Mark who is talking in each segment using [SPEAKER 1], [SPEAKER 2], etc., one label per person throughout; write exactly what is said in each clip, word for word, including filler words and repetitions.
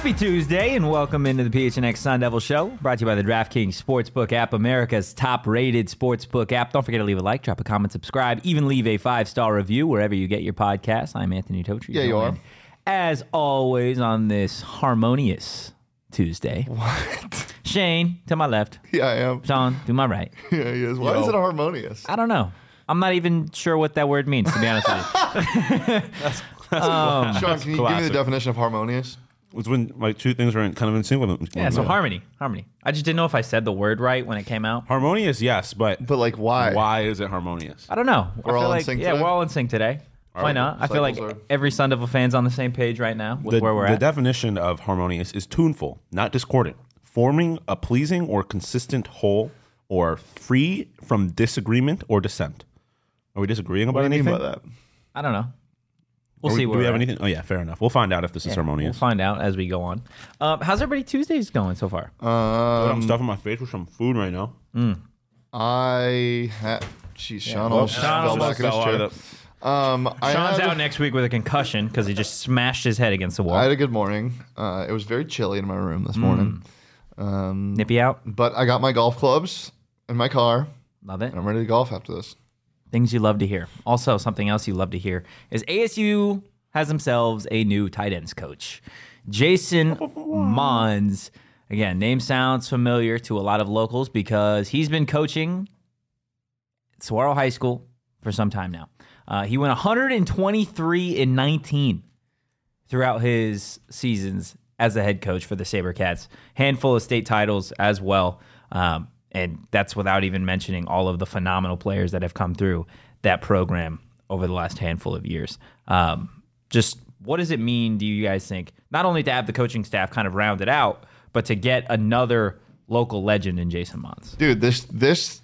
[SPEAKER 1] Happy Tuesday and welcome into the P H N X Sun Devil Show, brought to you by the DraftKings Sportsbook app, America's top-rated sportsbook app. Don't forget to leave a like, drop a comment, subscribe, even leave a five-star review wherever you get your podcasts. I'm Anthony Totri.
[SPEAKER 2] Yeah, you are.
[SPEAKER 1] As always on this harmonious Tuesday.
[SPEAKER 2] What?
[SPEAKER 1] Shane, to my left.
[SPEAKER 2] Yeah, I am.
[SPEAKER 1] Sean, to my right.
[SPEAKER 2] Yeah, he is. Why
[SPEAKER 3] Yo.
[SPEAKER 2] is it harmonious?
[SPEAKER 1] I don't know. I'm not even sure what that word means, to be honest with you.
[SPEAKER 3] That's, that's
[SPEAKER 1] Um,
[SPEAKER 2] Sean, can you give me the definition of harmonious?
[SPEAKER 3] It's when like two things are in, kind of in sync with them.
[SPEAKER 1] Yeah, so harmony. Harmony. I just didn't know if I said the word right when it came out.
[SPEAKER 3] Harmonious, yes, but
[SPEAKER 2] But like, why?
[SPEAKER 3] why is it harmonious?
[SPEAKER 1] I don't know.
[SPEAKER 2] We're
[SPEAKER 1] I feel
[SPEAKER 2] all in
[SPEAKER 1] like,
[SPEAKER 2] sync
[SPEAKER 1] Yeah,
[SPEAKER 2] today?
[SPEAKER 1] we're all in sync today. Why
[SPEAKER 3] right.
[SPEAKER 1] not? I feel like
[SPEAKER 2] Cycles are-
[SPEAKER 1] every Sun Devil fan's on the same page right now with
[SPEAKER 3] The,
[SPEAKER 1] where we're
[SPEAKER 3] the
[SPEAKER 1] at.
[SPEAKER 3] definition of harmonious is tuneful, not discordant, forming a pleasing or consistent whole, or free from disagreement or dissent. Are we disagreeing about
[SPEAKER 2] What do you
[SPEAKER 3] anything?
[SPEAKER 2] mean by that?
[SPEAKER 1] I don't know. We'll
[SPEAKER 3] Are we-
[SPEAKER 1] see
[SPEAKER 3] Do
[SPEAKER 1] where
[SPEAKER 3] we
[SPEAKER 1] we're
[SPEAKER 3] have
[SPEAKER 1] at.
[SPEAKER 3] anything? Oh yeah, fair enough. We'll find out if this is
[SPEAKER 1] Yeah,
[SPEAKER 3] harmonious.
[SPEAKER 1] We'll find out as we go on. Um, how's everybody Tuesdays going so far?
[SPEAKER 3] I'm
[SPEAKER 2] Um,
[SPEAKER 3] stuffing my face with some food right now.
[SPEAKER 2] I had. Jeez, Sean
[SPEAKER 1] Well,
[SPEAKER 2] almost just
[SPEAKER 1] Sean
[SPEAKER 2] fell
[SPEAKER 1] almost
[SPEAKER 2] back in his
[SPEAKER 3] fell out
[SPEAKER 2] chair.
[SPEAKER 3] of
[SPEAKER 2] Um, I
[SPEAKER 1] Sean's
[SPEAKER 2] had,
[SPEAKER 1] out next week with a concussion because he just smashed his head against the wall.
[SPEAKER 2] I had a good morning. Uh, it was very chilly in my room this morning.
[SPEAKER 1] Mm.
[SPEAKER 2] Um,
[SPEAKER 1] Nippy out.
[SPEAKER 2] but I got my golf clubs in my car,
[SPEAKER 1] Love it.
[SPEAKER 2] and I'm ready to golf after this.
[SPEAKER 1] Things you love to hear. Also, something else you love to hear is A S U has themselves a new tight ends coach. Jason Mons. Again, name sounds familiar to a lot of locals because he's been coaching at Saguaro High School for some time now. Uh, he went one hundred twenty-three and nineteen throughout his seasons as a head coach for the SaberCats. Handful of state titles as well. Um, and that's without even mentioning all of the phenomenal players that have come through that program over the last handful of years. Um, just what does it mean, do you guys think, not only to have the coaching staff kind of rounded out, but to get another local legend in Jason Mons?
[SPEAKER 2] Dude, this this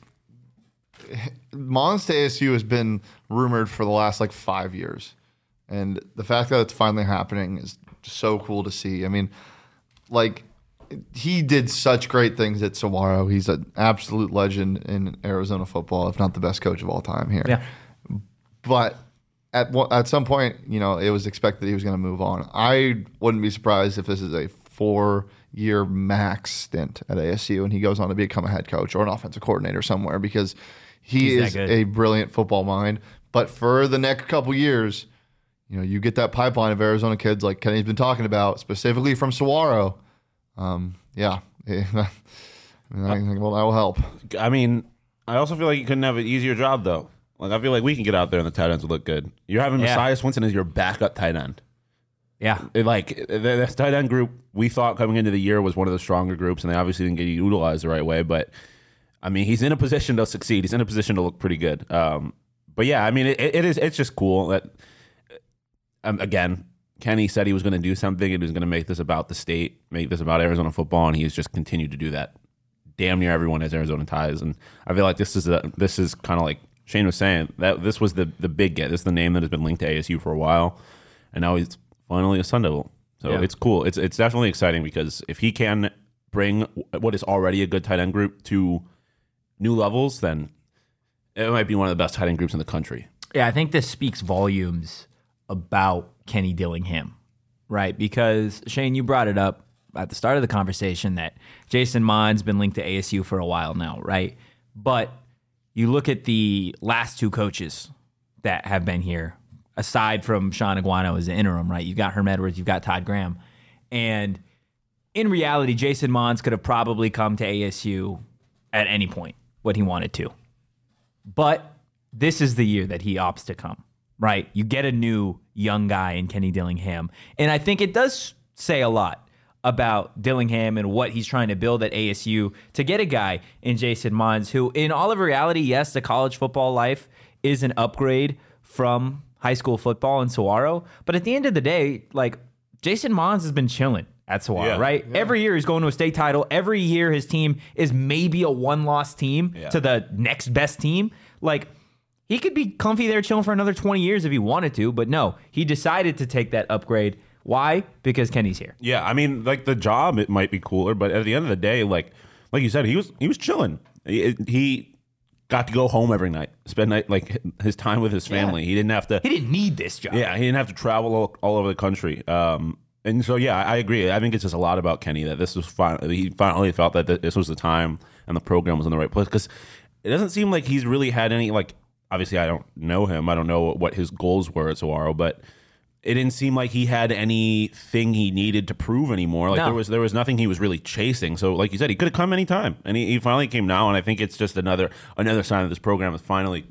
[SPEAKER 2] Mons to A S U has been rumored for the last like five years, and the fact that it's finally happening is so cool to see. I mean, like he did such great things at Saguaro. He's an absolute legend in Arizona football, if not the best coach of all time here.
[SPEAKER 1] Yeah.
[SPEAKER 2] But at one, at some point, you know, it was expected he was going to move on. I wouldn't be surprised if this is a four-year max stint at A S U, and he goes on to become a head coach or an offensive coordinator somewhere because he
[SPEAKER 1] He's that
[SPEAKER 2] is
[SPEAKER 1] good.
[SPEAKER 2] a brilliant football mind. But for the next couple years, you know, you get that pipeline of Arizona kids like Kenny's been talking about, specifically from Saguaro. Um, yeah, I mean, I think well, that will help.
[SPEAKER 3] I mean, I also feel like you couldn't have an easier job though. Like I feel like we can get out there and the tight ends would look good. You're having
[SPEAKER 1] Yeah.
[SPEAKER 3] Messiah Swinson as your backup tight end.
[SPEAKER 1] Yeah.
[SPEAKER 3] It, like the, the tight end group we thought coming into the year was one of the stronger groups, and they obviously didn't get utilized the right way. But I mean, he's in a position to succeed. He's in a position to look pretty good. Um, but yeah, I mean, it, it is. It's just cool that um, again, Kenny said he was going to do something and he was going to make this about the state, make this about Arizona football, and he's just continued to do that. Damn near everyone has Arizona ties, and I feel like this is a, this is kind of like Shane was saying, that this was the the big get. This is the name that has been linked to A S U for a while, and now he's finally a Sun Devil. So
[SPEAKER 1] Yeah.
[SPEAKER 3] it's cool. It's it's definitely exciting because if he can bring what is already a good tight end group to new levels, then it might be one of the best tight end groups in the country.
[SPEAKER 1] Yeah, I think this speaks volumes about Kenny Dillingham, right? Because, Shane, you brought it up at the start of the conversation that Jason Mond's been linked to A S U for a while now, right? But you look at the last two coaches that have been here, aside from Sean Aguano as the interim, right? You've got Herm Edwards, you've got Todd Graham. And in reality, Jason Mons could have probably come to A S U at any point when he wanted to. But this is the year that he opts to come, right? You get a new young guy in Kenny Dillingham. And I think it does say a lot about Dillingham and what he's trying to build at A S U to get a guy in Jason Mons who, in all of reality, yes, the college football life is an upgrade from high school football in Saguaro. But at the end of the day, like, Jason Mons has been chilling at Saguaro,
[SPEAKER 3] Yeah.
[SPEAKER 1] right?
[SPEAKER 2] Yeah.
[SPEAKER 1] Every year he's going to a state title. Every year his team is maybe a one-loss team
[SPEAKER 3] Yeah.
[SPEAKER 1] to the next best team. Like, he could be comfy there chilling for another twenty years if he wanted to, but no, he decided to take that upgrade. Why? Because Kenny's here.
[SPEAKER 3] Yeah, I mean, like the job, it might be cooler, but at the end of the day, like like you said, he was he was chilling. He, he got to go home every night, spend night like his time with his family.
[SPEAKER 1] Yeah.
[SPEAKER 3] He didn't have to.
[SPEAKER 1] He didn't need this job.
[SPEAKER 3] Yeah, he didn't have to travel all, all over the country. Um, And so, yeah, I agree. I think it's just a lot about Kenny that this was finally, he finally felt that this was the time and the program was in the right place. Because it doesn't seem like he's really had any, like, obviously I don't know him. I don't know what his goals were at Saguaro, but it didn't seem like he had anything he needed to prove anymore. Like
[SPEAKER 1] No.
[SPEAKER 3] there was there was nothing he was really chasing. So, like you said, he could have come anytime, and he, he finally came now. And I think it's just another another sign that this program is finally.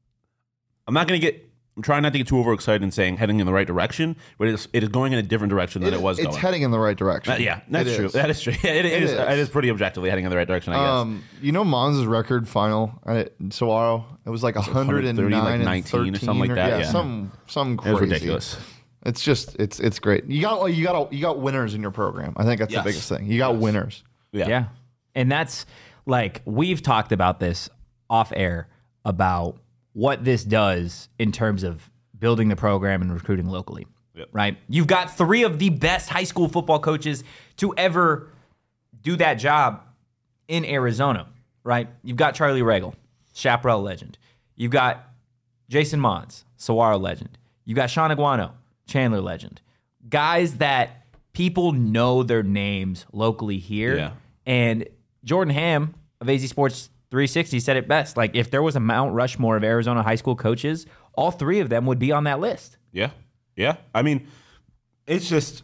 [SPEAKER 3] I'm not going to get. I'm trying not to get too overexcited and saying heading in the right direction, but it is, it is going in a different direction than it,
[SPEAKER 2] It-
[SPEAKER 3] was
[SPEAKER 2] It's
[SPEAKER 3] going.
[SPEAKER 2] heading in the right direction.
[SPEAKER 3] Uh, yeah, that's
[SPEAKER 2] It
[SPEAKER 3] true.
[SPEAKER 2] is.
[SPEAKER 3] That is true. Yeah, it, it,
[SPEAKER 2] It
[SPEAKER 3] is,
[SPEAKER 2] is.
[SPEAKER 3] it is pretty objectively heading in the right direction, I guess.
[SPEAKER 2] Um, you know, Mons' record final at Saguaro, it was like one hundred nine
[SPEAKER 3] like
[SPEAKER 2] and
[SPEAKER 3] nineteen or
[SPEAKER 2] thirteen
[SPEAKER 3] something like that, yeah.
[SPEAKER 2] some some
[SPEAKER 3] it
[SPEAKER 2] crazy.
[SPEAKER 3] was ridiculous.
[SPEAKER 2] It's just it's it's great. You got you got you got winners in your program. I think that's
[SPEAKER 3] Yes.
[SPEAKER 2] the biggest thing. You got winners.
[SPEAKER 3] Yeah.
[SPEAKER 1] Yeah. And that's like, we've talked about this off air about what this does in terms of building the program and recruiting locally.
[SPEAKER 3] Yep.
[SPEAKER 1] Right? You've got three of the best high school football coaches to ever do that job in Arizona, right? You've got Charlie Regal, Chaparral legend. You've got Jason Mons, Saguaro legend. You got Sean Aguano, Chandler legend. Guys that people know their names locally here.
[SPEAKER 3] Yeah.
[SPEAKER 1] And Jordan Ham of A Z Sports three sixty said it best. Like, if there was a Mount Rushmore of Arizona high school coaches, all three of them would be on that list.
[SPEAKER 3] Yeah. Yeah. I mean, it's just,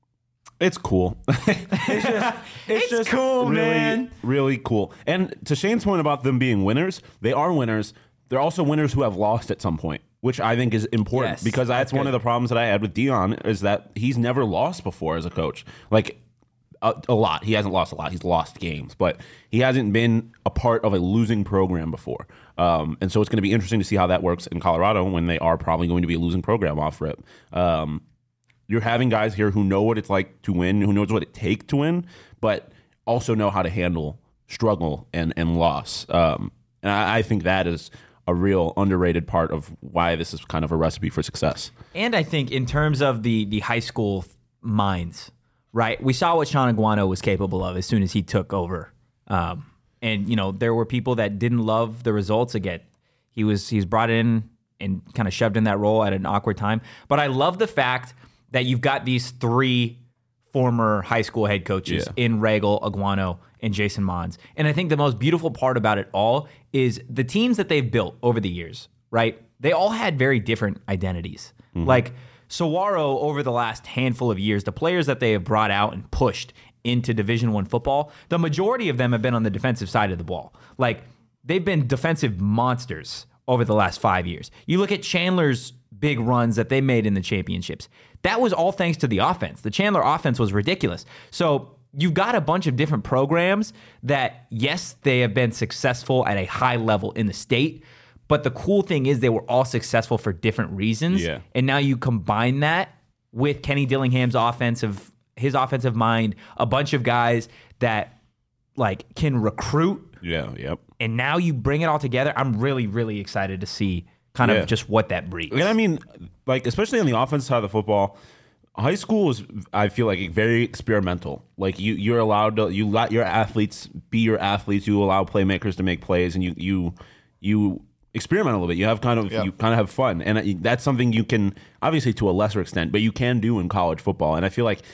[SPEAKER 3] it's cool. it's just, it's,
[SPEAKER 1] It's cool,
[SPEAKER 3] really,
[SPEAKER 1] man.
[SPEAKER 3] Really cool. And to Shane's point about them being winners, they are winners. They're also winners who have lost at some point, which I think is important
[SPEAKER 1] Yes,
[SPEAKER 3] because that's
[SPEAKER 1] that's
[SPEAKER 3] one
[SPEAKER 1] good.
[SPEAKER 3] of the problems that I had with Dion is that he's never lost before as a coach. Like, a, a lot. He hasn't lost a lot. He's lost games, but he hasn't been a part of a losing program before. Um, and so it's going to be interesting to see how that works in Colorado when they are probably going to be a losing program off rip. Um, you're having guys here who know what it's like to win, who knows what it takes to win, but also know how to handle struggle and, and loss. Um, and I, I think that is a real underrated part of why this is kind of a recipe for success.
[SPEAKER 1] And I think in terms of the the high school minds, right? We saw what Sean Aguano was capable of as soon as he took over. Um, and, you know, there were people that didn't love the results again. He was he was brought in and kind of shoved in that role at an awkward time. But I love the fact that you've got these three former high school head coaches
[SPEAKER 3] Yeah.
[SPEAKER 1] in Regal, Aguano, and Jason Mons. And I think the most beautiful part about it all is the teams that they've built over the years, right? They all had very different identities. Like Saguaro, over the last handful of years, the players that they have brought out and pushed into Division One football, the majority of them have been on the defensive side of the ball. Like, they've been defensive monsters over the last five years. You look at Chandler's big runs that they made in the championships. That was all thanks to the offense. The Chandler offense was ridiculous. So you've got a bunch of different programs that, yes, they have been successful at a high level in the state, but the cool thing is they were all successful for different reasons.
[SPEAKER 3] Yeah.
[SPEAKER 1] And now you combine that with Kenny Dillingham's offensive, his offensive mind, a bunch of guys that like can recruit,
[SPEAKER 3] Yeah, yep.
[SPEAKER 1] and now you bring it all together. I'm really, really excited to see kind
[SPEAKER 3] Yeah.
[SPEAKER 1] of just what that breeds.
[SPEAKER 3] And I mean, like, especially on the offensive side of the football, high school is, I feel like, very experimental. Like, you, you're allowed to, you let your athletes be your athletes. You allow playmakers to make plays, and you, you, you experiment a little bit. You have kind of,
[SPEAKER 2] Yeah.
[SPEAKER 3] you kind of have fun, and that's something you can, obviously to a lesser extent, but you can do in college football. And I feel like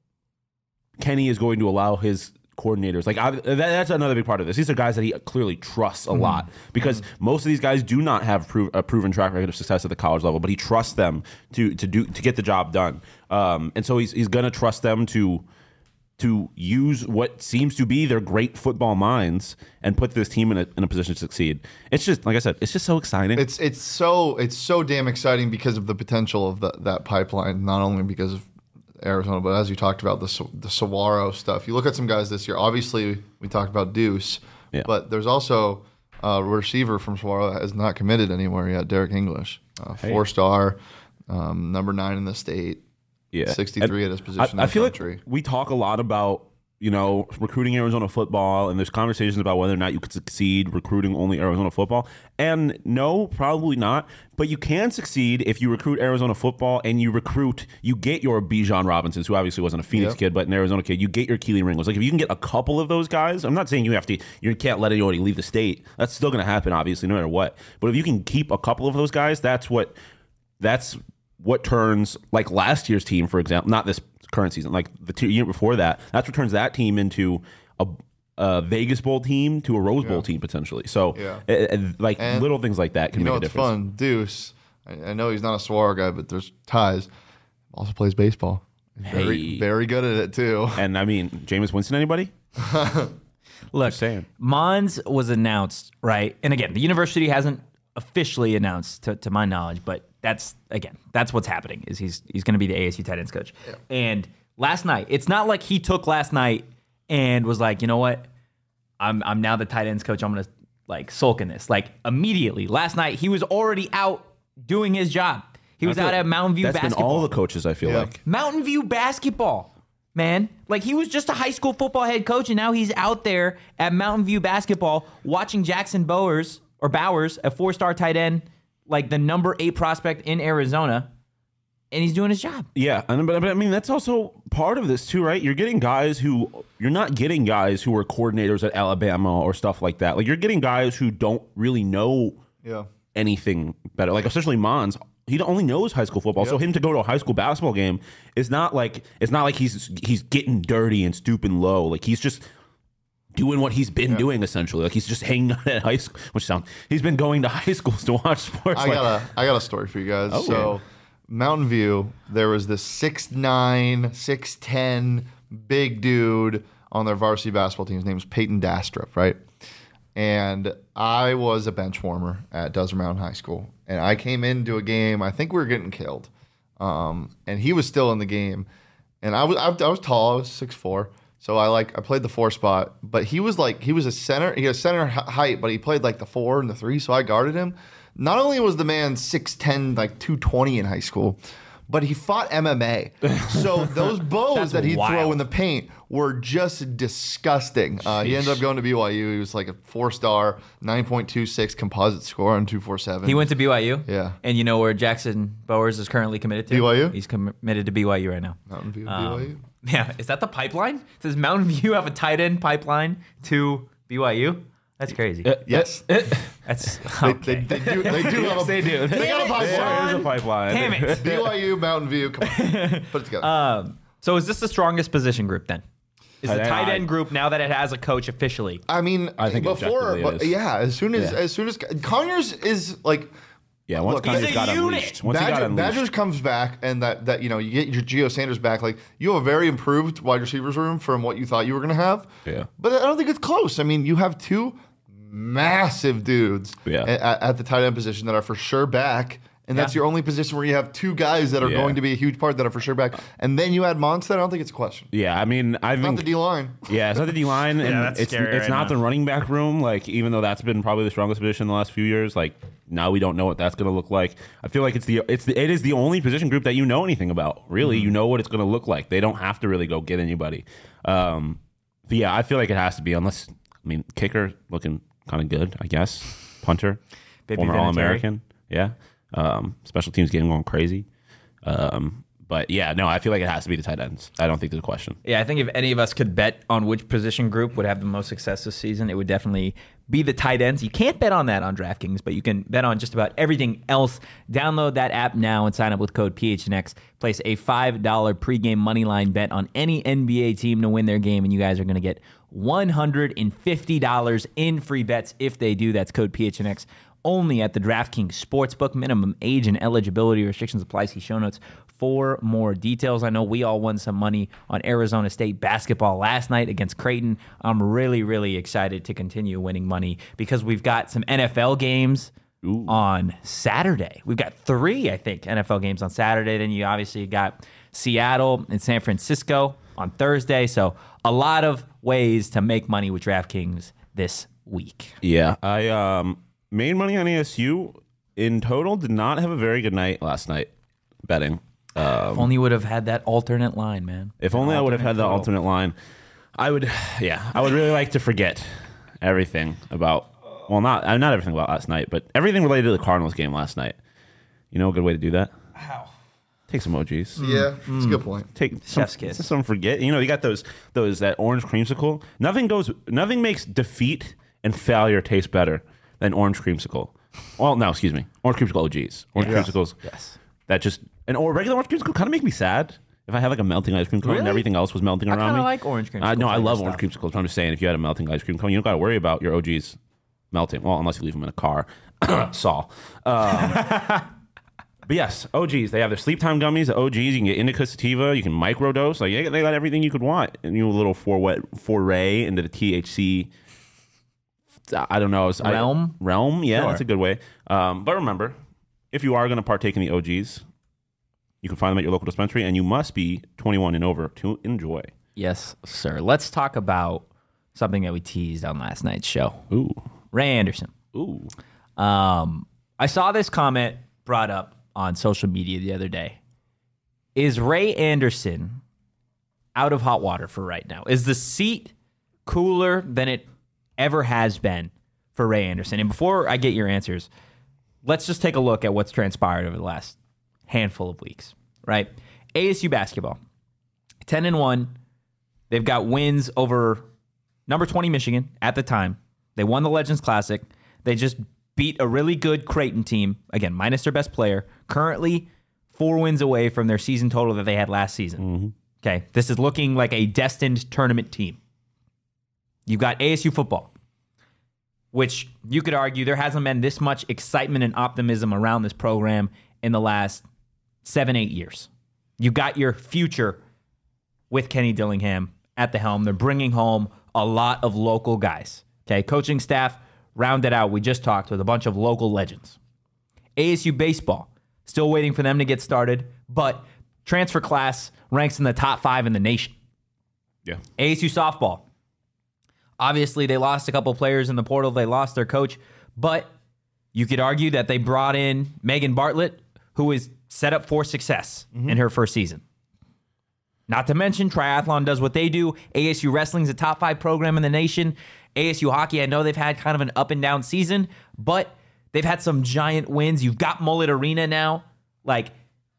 [SPEAKER 3] Kenny is going to allow his coordinators, like I, that, that's another big part of this. These are guys that he clearly trusts a lot because most of these guys do not have prov- a proven track record of success at the college level, but he trusts them to to do to get the job done. Um, and so he's he's going to trust them to to use what seems to be their great football minds and put this team in a, in a position to succeed. It's just, like I said, it's just so exciting.
[SPEAKER 2] It's it's so it's so damn exciting because of the potential of the, that pipeline. Not only because of Arizona, but as you talked about the Sa- the Saguaro stuff. You look at some guys this year. Obviously, we talked about Deuce,
[SPEAKER 3] Yeah.
[SPEAKER 2] but there's also a receiver from Saguaro that has not committed anywhere yet. Derek English, uh, four star, um, number nine in the state.
[SPEAKER 3] Yeah,
[SPEAKER 2] sixty-three
[SPEAKER 3] And
[SPEAKER 2] at his position
[SPEAKER 3] I, I
[SPEAKER 2] in the
[SPEAKER 3] feel
[SPEAKER 2] country.
[SPEAKER 3] like we talk a lot about, you know, recruiting Arizona football, and there's conversations about whether or not you could succeed recruiting only Arizona football. And no, probably not. But you can succeed if you recruit Arizona football and you recruit, you get your Bijan Robinsons, who obviously wasn't a Phoenix
[SPEAKER 2] Yep.
[SPEAKER 3] kid, but an Arizona kid. You get your Keely Ringos. Like, if you can get a couple of those guys, I'm not saying you have to, you can't let anybody leave the state. That's still going to happen, obviously, no matter what. But if you can keep a couple of those guys, that's what, that's what turns, like last year's team, for example, not this current season, like the two, year before that. That's what turns that team into a, a Vegas Bowl team to a Rose Bowl
[SPEAKER 2] Yeah.
[SPEAKER 3] team potentially. So,
[SPEAKER 2] Yeah.
[SPEAKER 3] uh, uh, like
[SPEAKER 2] And
[SPEAKER 3] little things like that can
[SPEAKER 2] You
[SPEAKER 3] make
[SPEAKER 2] know
[SPEAKER 3] a
[SPEAKER 2] what's
[SPEAKER 3] difference.
[SPEAKER 2] fun? Deuce, I, I know he's not a Swar guy, but there's ties. Also plays baseball. He's Very,
[SPEAKER 3] Hey.
[SPEAKER 2] very good at it too.
[SPEAKER 3] And I mean, Jameis Winston, anybody?
[SPEAKER 1] Look,
[SPEAKER 3] Just saying.
[SPEAKER 1] Mons was announced, right? And again, the university hasn't officially announced, to, to my knowledge, but that's again, that's what's happening. Is he's he's going to be the A S U tight ends coach. And last night, it's not like he took last night and was like, you know what, I'm I'm now the tight ends coach. I'm going to like sulk in this. Like immediately, last night he was already out doing his job. He was
[SPEAKER 3] I feel
[SPEAKER 1] out
[SPEAKER 3] like
[SPEAKER 1] at Mountain View
[SPEAKER 3] That's
[SPEAKER 1] basketball.
[SPEAKER 3] been all the coaches, I feel
[SPEAKER 2] Yeah.
[SPEAKER 3] like.
[SPEAKER 1] Mountain View basketball, man. Like he was just a high school football head coach, and now he's out there at Mountain View basketball watching Jackson Bowers or Bowers, a four-star tight end, like the number eight prospect in Arizona, and he's doing his job.
[SPEAKER 3] Yeah, and but, but I mean that's also part of this too, right? You're getting guys who you're not getting guys who were coordinators at Alabama or stuff like that. Like you're getting guys who don't really know
[SPEAKER 2] Yeah.
[SPEAKER 3] anything better. Like especially Mons, he only knows high school football. So
[SPEAKER 2] Yep.
[SPEAKER 3] him to go to a high school basketball game is not like it's not like he's he's getting dirty and stooping low. Like he's just doing what he's been doing essentially. Like he's just hanging out at high school, which sounds he's been going to high schools to watch sports.
[SPEAKER 2] I
[SPEAKER 3] like,
[SPEAKER 2] got a I got a story for you guys.
[SPEAKER 3] Oh,
[SPEAKER 2] so
[SPEAKER 3] yeah.
[SPEAKER 2] Mountain View, there was this six nine, six ten big dude on their varsity basketball team. His name was Peyton Dastrup, right? And I was a bench warmer at Desert Mountain High School. And I came into a game, I think we were getting killed. Um, and he was still in the game. And I was I, I was tall, I was six four. So I like I played the four spot, but he was like he was a center. He was center h- height, but he played like the four and the three. So I guarded him. Not only was the man six ten, like two twenty in high school, but he fought M M A. So those bows
[SPEAKER 1] That's
[SPEAKER 2] that he'd throw
[SPEAKER 1] wild.
[SPEAKER 2] in the paint were just disgusting. Uh, he ended up going to B Y U. He was like a four star, nine point two six composite score on two forty-seven.
[SPEAKER 1] He went to B Y U.
[SPEAKER 2] Yeah.
[SPEAKER 1] And you know where Jackson Bowers is currently committed to?
[SPEAKER 2] B Y U?
[SPEAKER 1] He's committed to B Y U right now.
[SPEAKER 2] Mountain View,
[SPEAKER 1] Um,
[SPEAKER 2] B Y U.
[SPEAKER 1] Yeah. Is that the pipeline? Does Mountain View have a tight end pipeline to B Y U? That's crazy.
[SPEAKER 2] Yes.
[SPEAKER 1] That's
[SPEAKER 2] They,
[SPEAKER 1] okay.
[SPEAKER 2] they, they do. They do have a,
[SPEAKER 3] they do.
[SPEAKER 2] They got a
[SPEAKER 1] Damn it,
[SPEAKER 3] There
[SPEAKER 2] pipeline.
[SPEAKER 3] is a pipeline.
[SPEAKER 1] Damn it.
[SPEAKER 2] B Y U, Mountain View. Come on. Put it together.
[SPEAKER 1] Um, so is this the strongest position group then? Is the
[SPEAKER 3] I-
[SPEAKER 1] tight
[SPEAKER 3] I-
[SPEAKER 1] end group now that it has a coach officially?
[SPEAKER 2] I mean,
[SPEAKER 3] I think
[SPEAKER 2] before,
[SPEAKER 3] objectively it
[SPEAKER 2] but
[SPEAKER 3] is.
[SPEAKER 2] yeah, as soon as
[SPEAKER 3] Yeah.
[SPEAKER 2] as soon as Conyers is like
[SPEAKER 3] Yeah, once
[SPEAKER 2] Look,
[SPEAKER 3] Conyers
[SPEAKER 1] he's a
[SPEAKER 3] got
[SPEAKER 1] unit.
[SPEAKER 3] unleashed. Once he got
[SPEAKER 2] Badger,
[SPEAKER 3] unleashed.
[SPEAKER 2] Badgers comes back, and that that you know you get your Geo Sanders back, like you have a very improved wide receivers room from what you thought you were going to have.
[SPEAKER 3] Yeah.
[SPEAKER 2] but I don't think it's close. I mean, you have two massive dudes
[SPEAKER 3] Yeah.
[SPEAKER 2] at, at the tight end position that are for sure back. And that's
[SPEAKER 1] Yeah.
[SPEAKER 2] your only position where you have two guys that are
[SPEAKER 3] Yeah.
[SPEAKER 2] going to be a huge part that are for sure back. And then you add Monstead. I don't think it's a question.
[SPEAKER 3] Yeah, I mean, I
[SPEAKER 2] Not
[SPEAKER 3] think
[SPEAKER 2] the D line.
[SPEAKER 3] yeah, it's not the D line, and
[SPEAKER 1] that's
[SPEAKER 3] it's
[SPEAKER 1] scary
[SPEAKER 3] it's
[SPEAKER 1] right
[SPEAKER 3] not
[SPEAKER 1] now.
[SPEAKER 3] the running back room. Like, even though that's been probably the strongest position in the last few years, like now we don't know what that's going to look like. I feel like it's the it's the, it is the only position group that you know anything about. Really,
[SPEAKER 1] Mm-hmm.
[SPEAKER 3] you know what it's going to look like. They don't have to really go get anybody. Um, but yeah, I feel like it has to be. Unless I mean, kicker looking kind of good, I guess. Punter,
[SPEAKER 1] Baby
[SPEAKER 3] former
[SPEAKER 1] Vinatieri.
[SPEAKER 3] All American, yeah. Um, special teams game going crazy. Um, but yeah, no, I feel like it has to be the tight ends. I don't think there's a question.
[SPEAKER 1] Yeah, I think if any of us could bet on which position group would have the most success this season, it would definitely be the tight ends. You can't bet on that on DraftKings, but you can bet on just about everything else. Download that app now and sign up with code P H N X. Place a five dollar pregame moneyline bet on any N B A team to win their game, and you guys are going to get one hundred fifty dollars in free bets if they do. That's code P H N X. Only at the DraftKings Sportsbook. Minimum age and eligibility restrictions apply. See show notes for more details. I know we all won some money on Arizona State basketball last night against Creighton. I'm really, really excited to continue winning money because we've got some N F L games
[SPEAKER 3] Ooh.
[SPEAKER 1] on Saturday. We've got three, I think, N F L games on Saturday. Then you obviously got Seattle and San Francisco on Thursday. So a lot of ways to make money with DraftKings this week.
[SPEAKER 3] Yeah, I um, made money on A S U in total. Did not have a very good night last night betting.
[SPEAKER 1] If only you would have had that alternate line, man.
[SPEAKER 3] If only I would have had the
[SPEAKER 1] total.
[SPEAKER 3] alternate line, I would. Yeah, I would really like to forget everything about. Well, not uh, not everything about last night, but everything related to the Cardinals game last night. You know a good way to do that?
[SPEAKER 1] How?
[SPEAKER 3] Take some emojis.
[SPEAKER 2] Yeah, it's a good point.
[SPEAKER 3] Take some,
[SPEAKER 1] Chef's kiss.
[SPEAKER 3] some forget. You know, you got those those that orange creamsicle. Nothing goes. Nothing makes defeat and failure taste better than orange creamsicle. Well, no, excuse me. Orange creamsicle O Gs. Orange
[SPEAKER 2] Yes.
[SPEAKER 3] creamsicles.
[SPEAKER 1] Yes.
[SPEAKER 3] That just and or regular orange creamsicle kind of make me sad. If If I had like a melting ice cream cone and
[SPEAKER 1] Really?
[SPEAKER 3] everything else was melting
[SPEAKER 1] I
[SPEAKER 3] around
[SPEAKER 1] kind
[SPEAKER 3] me.
[SPEAKER 1] of like orange cream.
[SPEAKER 3] Uh, no, I love orange
[SPEAKER 1] cream.
[SPEAKER 3] creamsicles. But I'm just saying, if you had a melting ice cream cone, you don't got to worry about your O Gs melting. Well, unless you leave them in a car. Saul. Um, but yes, O Gs. They have their sleep time gummies. The O Gs. You can get indica sativa. You can microdose. Like they got everything you could want. And you know, a little foray, foray into the T H C. I don't know. I,
[SPEAKER 1] Realm?
[SPEAKER 3] realm. Yeah,
[SPEAKER 1] Sure.
[SPEAKER 3] that's a good way. Um, but remember, if you are going to partake in the O Gs, you can find them at your local dispensary, and you must be twenty-one and over to enjoy.
[SPEAKER 1] Yes, sir. Let's talk about something that we teased on last night's show.
[SPEAKER 3] Ooh,
[SPEAKER 1] Ray Anderson.
[SPEAKER 3] ooh.
[SPEAKER 1] Um, I saw this comment brought up on social media the other day. Is Ray Anderson out of hot water for right now? Is the seat cooler than it ever has been for Ray Anderson? And before I get your answers, let's just take a look at what's transpired over the last handful of weeks, right? A S U basketball, ten and one. They've got wins over number twenty Michigan at the time. They won the Legends Classic. They just beat a really good Creighton team, again, minus their best player, currently four wins away from their season total that they had last season.
[SPEAKER 3] Mm-hmm.
[SPEAKER 1] Okay, this is looking like a destined tournament team. You've got A S U football, which you could argue there hasn't been this much excitement and optimism around this program in the last seven, eight years. You got your future with Kenny Dillingham at the helm. They're bringing home a lot of local guys. Okay, coaching staff rounded out. We just talked with a bunch of local legends. A S U baseball, still waiting for them to get started, but transfer class ranks in the top five in the nation.
[SPEAKER 3] Yeah.
[SPEAKER 1] A S U softball, obviously they lost a couple players in the portal. They lost their coach, but you could argue that they brought in Megan Bartlett, who is set up for success mm-hmm. in her first season. Not to mention, triathlon does what they do. A S U wrestling's a top five program in the nation. A S U hockey, I know they've had kind of an up and down season, but they've had some giant wins. You've got Mullet Arena now. Like,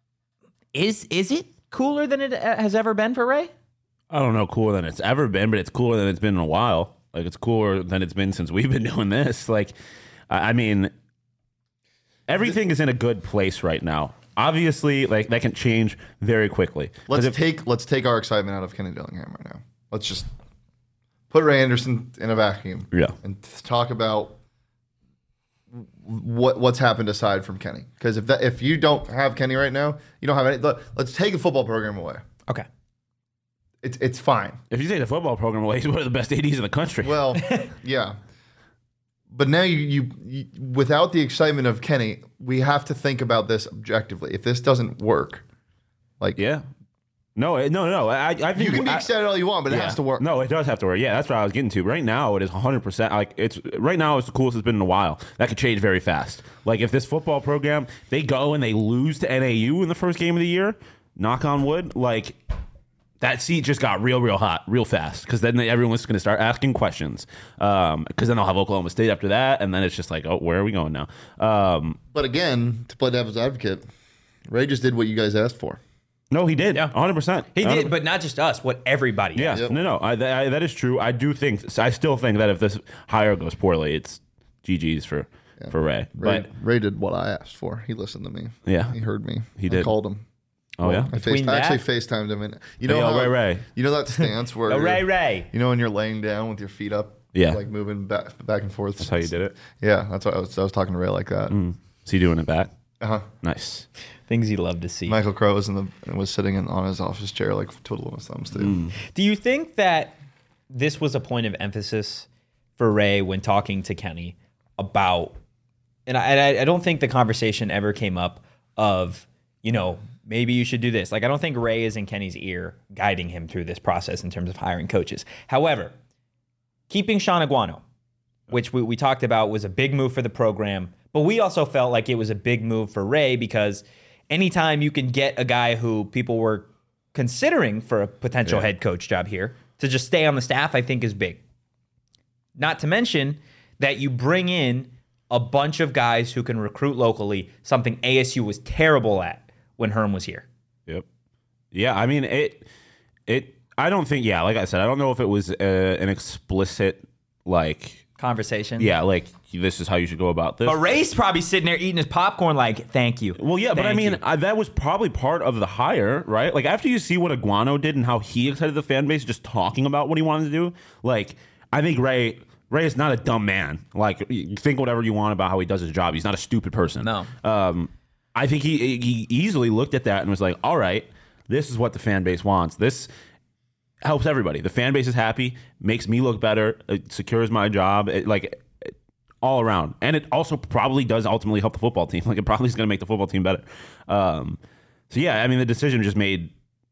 [SPEAKER 1] is is it cooler than it has ever been for Ray?
[SPEAKER 3] I don't know cooler than it's ever been, but it's cooler than it's been in a while. Like, it's cooler than it's been since we've been doing this. Like, I mean, everything is in a good place right now. Obviously, like, that can change very quickly.
[SPEAKER 2] Let's
[SPEAKER 3] if,
[SPEAKER 2] take let's take our excitement out of Kenny Dillingham right now. Let's just put Ray Anderson in a vacuum.
[SPEAKER 3] Yeah.
[SPEAKER 2] And talk about what what's happened aside from Kenny. Because if that if you don't have Kenny right now, you don't have any. Look, let's take a football program away.
[SPEAKER 1] Okay.
[SPEAKER 2] It's it's fine.
[SPEAKER 3] If you take the football program away, he's one of the best A Ds in the country.
[SPEAKER 2] Well, yeah. But now you, you, you without the excitement of Kenny, we have to think about this objectively. If this doesn't work, like
[SPEAKER 3] yeah. No, it- no, no. I, I think
[SPEAKER 2] you can be
[SPEAKER 3] I-
[SPEAKER 2] excited all you want, but it
[SPEAKER 3] Yeah.
[SPEAKER 2] has to work.
[SPEAKER 3] No, it does have to work. Yeah, that's what I was getting to. Right now, it is one hundred percent. Like it's right now, it's the coolest it's been in a while. That could change very fast. Like if this football program they go and they lose to N A U in the first game of the year, knock on wood, like that seat just got real, real hot, real fast. Because then everyone's going to start asking questions. Because um, then they'll have Oklahoma State after that, and then it's just like, oh, where are we going now? Um,
[SPEAKER 2] But again, to play devil's advocate, Ray just did what you guys asked for.
[SPEAKER 3] no, he did.
[SPEAKER 1] Yeah.
[SPEAKER 3] one hundred percent.
[SPEAKER 1] He did, but not just us, what everybody
[SPEAKER 3] Yeah,
[SPEAKER 1] does.
[SPEAKER 2] Yep.
[SPEAKER 3] no, no, I, th- I, that is true. I do think, I still think that if this hire goes poorly, it's G G's for for Ray.
[SPEAKER 2] Ray,
[SPEAKER 3] But
[SPEAKER 2] Ray did what I asked for. He listened to me.
[SPEAKER 3] yeah,
[SPEAKER 2] He heard me.
[SPEAKER 3] He
[SPEAKER 2] I
[SPEAKER 3] did.
[SPEAKER 2] called him.
[SPEAKER 3] oh yeah,
[SPEAKER 2] I,
[SPEAKER 1] Between
[SPEAKER 2] faced, I actually
[SPEAKER 1] that-
[SPEAKER 2] FaceTimed him. And you know
[SPEAKER 3] Hey, yo,
[SPEAKER 2] how,
[SPEAKER 3] Ray Ray.
[SPEAKER 2] You know that stance where
[SPEAKER 1] Oh,
[SPEAKER 2] you're-
[SPEAKER 1] Ray Ray.
[SPEAKER 2] You know when you're laying down with your feet up,
[SPEAKER 3] Yeah.
[SPEAKER 2] like moving back back and forth.
[SPEAKER 3] that's how you did it.
[SPEAKER 2] Yeah, that's what I was. I was talking to Ray like that.
[SPEAKER 3] Mm. Is he doing it back?
[SPEAKER 2] Uh huh.
[SPEAKER 3] Nice.
[SPEAKER 1] Things you love to see.
[SPEAKER 2] Michael Crow was in the was sitting in, on his office chair, like twiddling his thumbs too.
[SPEAKER 3] Mm.
[SPEAKER 1] Do you think that this was a point of emphasis for Ray when talking to Kenny about, and I, and I I don't think the conversation ever came up of, you know, maybe you should do this. Like, I don't think Ray is in Kenny's ear guiding him through this process in terms of hiring coaches. However, keeping Sean Aguano, which we, we talked about, was a big move for the program, but we also felt like it was a big move for Ray because anytime you can get a guy who people were considering for a potential
[SPEAKER 3] Yeah.
[SPEAKER 1] head coach job here to just stay on the staff, I think is big. Not to mention that you bring in a bunch of guys who can recruit locally, something A S U was terrible at when Herm was here.
[SPEAKER 3] Yep. Yeah, I mean it. It. I don't think. Yeah, like I said, I don't know if it was uh, an explicit like
[SPEAKER 1] conversation.
[SPEAKER 3] Yeah, like this is how you should go about this.
[SPEAKER 1] But Ray's probably sitting there eating his popcorn like, thank you.
[SPEAKER 3] Well, yeah, but I
[SPEAKER 1] Thank
[SPEAKER 3] mean,
[SPEAKER 1] you.
[SPEAKER 3] I, that was probably part of the hire, right? Like, after you see what Iguano did and how he excited the fan base just talking about what he wanted to do, like, I think Ray Ray is not a dumb man. Like, you think whatever you want about how he does his job. He's not a stupid person.
[SPEAKER 1] No.
[SPEAKER 3] Um, I think he he easily looked at that and was like, all right, this is what the fan base wants. This helps everybody. The fan base is happy, makes me look better, it secures my job, it, like it, all around. And it also probably does ultimately help the football team. Like it probably is going to make the football team better. Um, so yeah, I mean the decision just made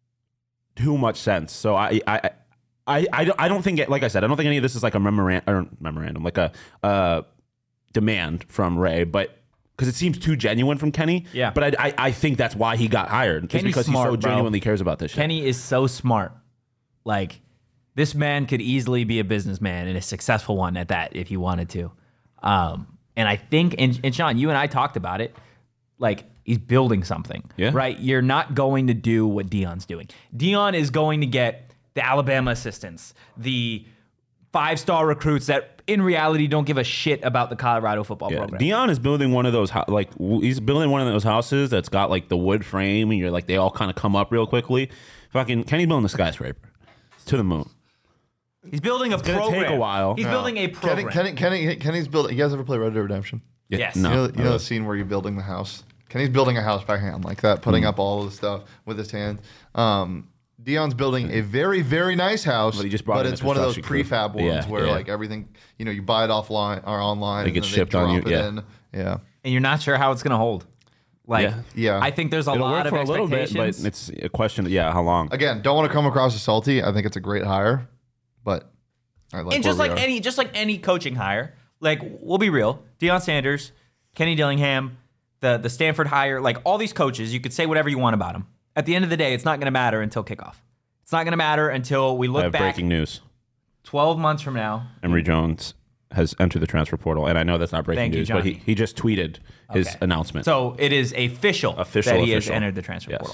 [SPEAKER 3] too much sense. So I I I I don't, I don't think it, like I said, I don't think any of this is like a memorandum or memorandum like a uh, demand from Ray, but because it seems too genuine from Kenny.
[SPEAKER 1] Yeah.
[SPEAKER 3] But I I, I think that's why he got hired. Just
[SPEAKER 1] Kenny's
[SPEAKER 3] because
[SPEAKER 1] smart,
[SPEAKER 3] he so
[SPEAKER 1] bro.
[SPEAKER 3] genuinely cares about this shit.
[SPEAKER 1] Kenny is so smart. Like, this man could easily be a businessman and a successful one at that if he wanted to. Um, and I think, and, and Sean, you and I talked about it, like, he's building something,
[SPEAKER 3] Yeah.
[SPEAKER 1] right? You're not going to do what Dion's doing. Dion is going to get the Alabama assistants, the five-star recruits that in reality don't give a shit about the Colorado football
[SPEAKER 3] Yeah.
[SPEAKER 1] program.
[SPEAKER 3] Dion is building one of those hou- like w- he's building one of those houses that's got like the wood frame and you're like they all kind of come up real quickly. Fucking Kenny's building a skyscraper to the moon.
[SPEAKER 1] He's building a
[SPEAKER 3] gonna
[SPEAKER 1] program.
[SPEAKER 3] take a while.
[SPEAKER 1] He's
[SPEAKER 2] No.
[SPEAKER 1] building a program.
[SPEAKER 2] Kenny, Kenny, Kenny, Kenny's building. You guys ever play Red Dead Redemption?
[SPEAKER 1] Yes.
[SPEAKER 3] No.
[SPEAKER 2] You know, you know the scene where you're building the house. Kenny's building a house by hand like that, putting up all of the stuff with his hands. Um, Dion's building a very, very nice house,
[SPEAKER 3] But he just brought
[SPEAKER 2] but
[SPEAKER 3] in
[SPEAKER 2] it's
[SPEAKER 3] a
[SPEAKER 2] one of those
[SPEAKER 3] construction crew.
[SPEAKER 2] prefab ones
[SPEAKER 3] Yeah,
[SPEAKER 2] where
[SPEAKER 3] yeah.
[SPEAKER 2] like everything, you know, you buy it offline or online,
[SPEAKER 3] It
[SPEAKER 2] and
[SPEAKER 3] gets
[SPEAKER 2] then
[SPEAKER 3] shipped
[SPEAKER 2] they
[SPEAKER 3] on
[SPEAKER 2] drop
[SPEAKER 3] you,
[SPEAKER 2] it
[SPEAKER 3] yeah.
[SPEAKER 2] in. Yeah,
[SPEAKER 1] and you're not sure how it's going to hold. Like,
[SPEAKER 3] Yeah.
[SPEAKER 2] Yeah.
[SPEAKER 1] I think there's a
[SPEAKER 3] It'll
[SPEAKER 1] lot
[SPEAKER 3] work
[SPEAKER 1] of
[SPEAKER 3] for a little bit,
[SPEAKER 1] expectations.
[SPEAKER 3] but it's a question of yeah, how long?
[SPEAKER 2] again, don't want to come across as salty. I think it's a great hire, but I like
[SPEAKER 1] and
[SPEAKER 2] where
[SPEAKER 1] just
[SPEAKER 2] we
[SPEAKER 1] like
[SPEAKER 2] are.
[SPEAKER 1] any, just like any coaching hire, like we'll be real, Deion Sanders, Kenny Dillingham, the the Stanford hire, like all these coaches, you could say whatever you want about them. At the end of the day, it's not going to matter until kickoff. It's not going to matter until we
[SPEAKER 3] I
[SPEAKER 1] look
[SPEAKER 3] have
[SPEAKER 1] back
[SPEAKER 3] breaking news.
[SPEAKER 1] twelve months from now.
[SPEAKER 3] Emory Jones has entered the transfer portal, and I know that's not breaking
[SPEAKER 1] Thank you,
[SPEAKER 3] news, but he,
[SPEAKER 1] Johnny.
[SPEAKER 3] he just tweeted his
[SPEAKER 1] Okay.
[SPEAKER 3] announcement.
[SPEAKER 1] So it is official,
[SPEAKER 3] Official,
[SPEAKER 1] that he has
[SPEAKER 3] official.
[SPEAKER 1] entered the transfer
[SPEAKER 3] Yes.
[SPEAKER 1] portal.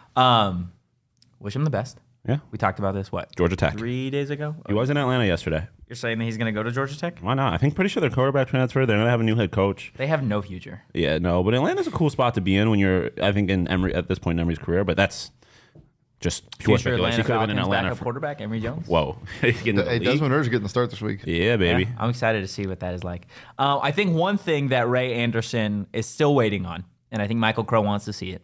[SPEAKER 1] Um, wish him the best.
[SPEAKER 3] yeah,
[SPEAKER 1] We talked about this, what?
[SPEAKER 3] Georgia Tech.
[SPEAKER 1] Three days ago?
[SPEAKER 3] He was in Atlanta yesterday.
[SPEAKER 1] You're saying that he's going to go to Georgia Tech?
[SPEAKER 3] Why not? I think pretty sure their quarterback transfer. They're gonna have a new head coach.
[SPEAKER 1] They have no future.
[SPEAKER 3] Yeah, no, but Atlanta's a cool spot to be in when you're, I think, in Emory at this point in Emory's career. But that's just pure
[SPEAKER 1] Future
[SPEAKER 3] speculation. He
[SPEAKER 1] Atlanta
[SPEAKER 3] could have been in
[SPEAKER 1] Falcons
[SPEAKER 3] Atlanta.
[SPEAKER 1] backup
[SPEAKER 3] For,
[SPEAKER 1] quarterback, Emory Jones.
[SPEAKER 3] whoa, Getting into the
[SPEAKER 2] Hey,
[SPEAKER 3] league.
[SPEAKER 2] Desmond Ridder's getting the start this week.
[SPEAKER 3] Yeah, baby.
[SPEAKER 1] Yeah, I'm excited to see what that is like. Uh, I think one thing that Ray Anderson is still waiting on, and I think Michael Crow wants to see it,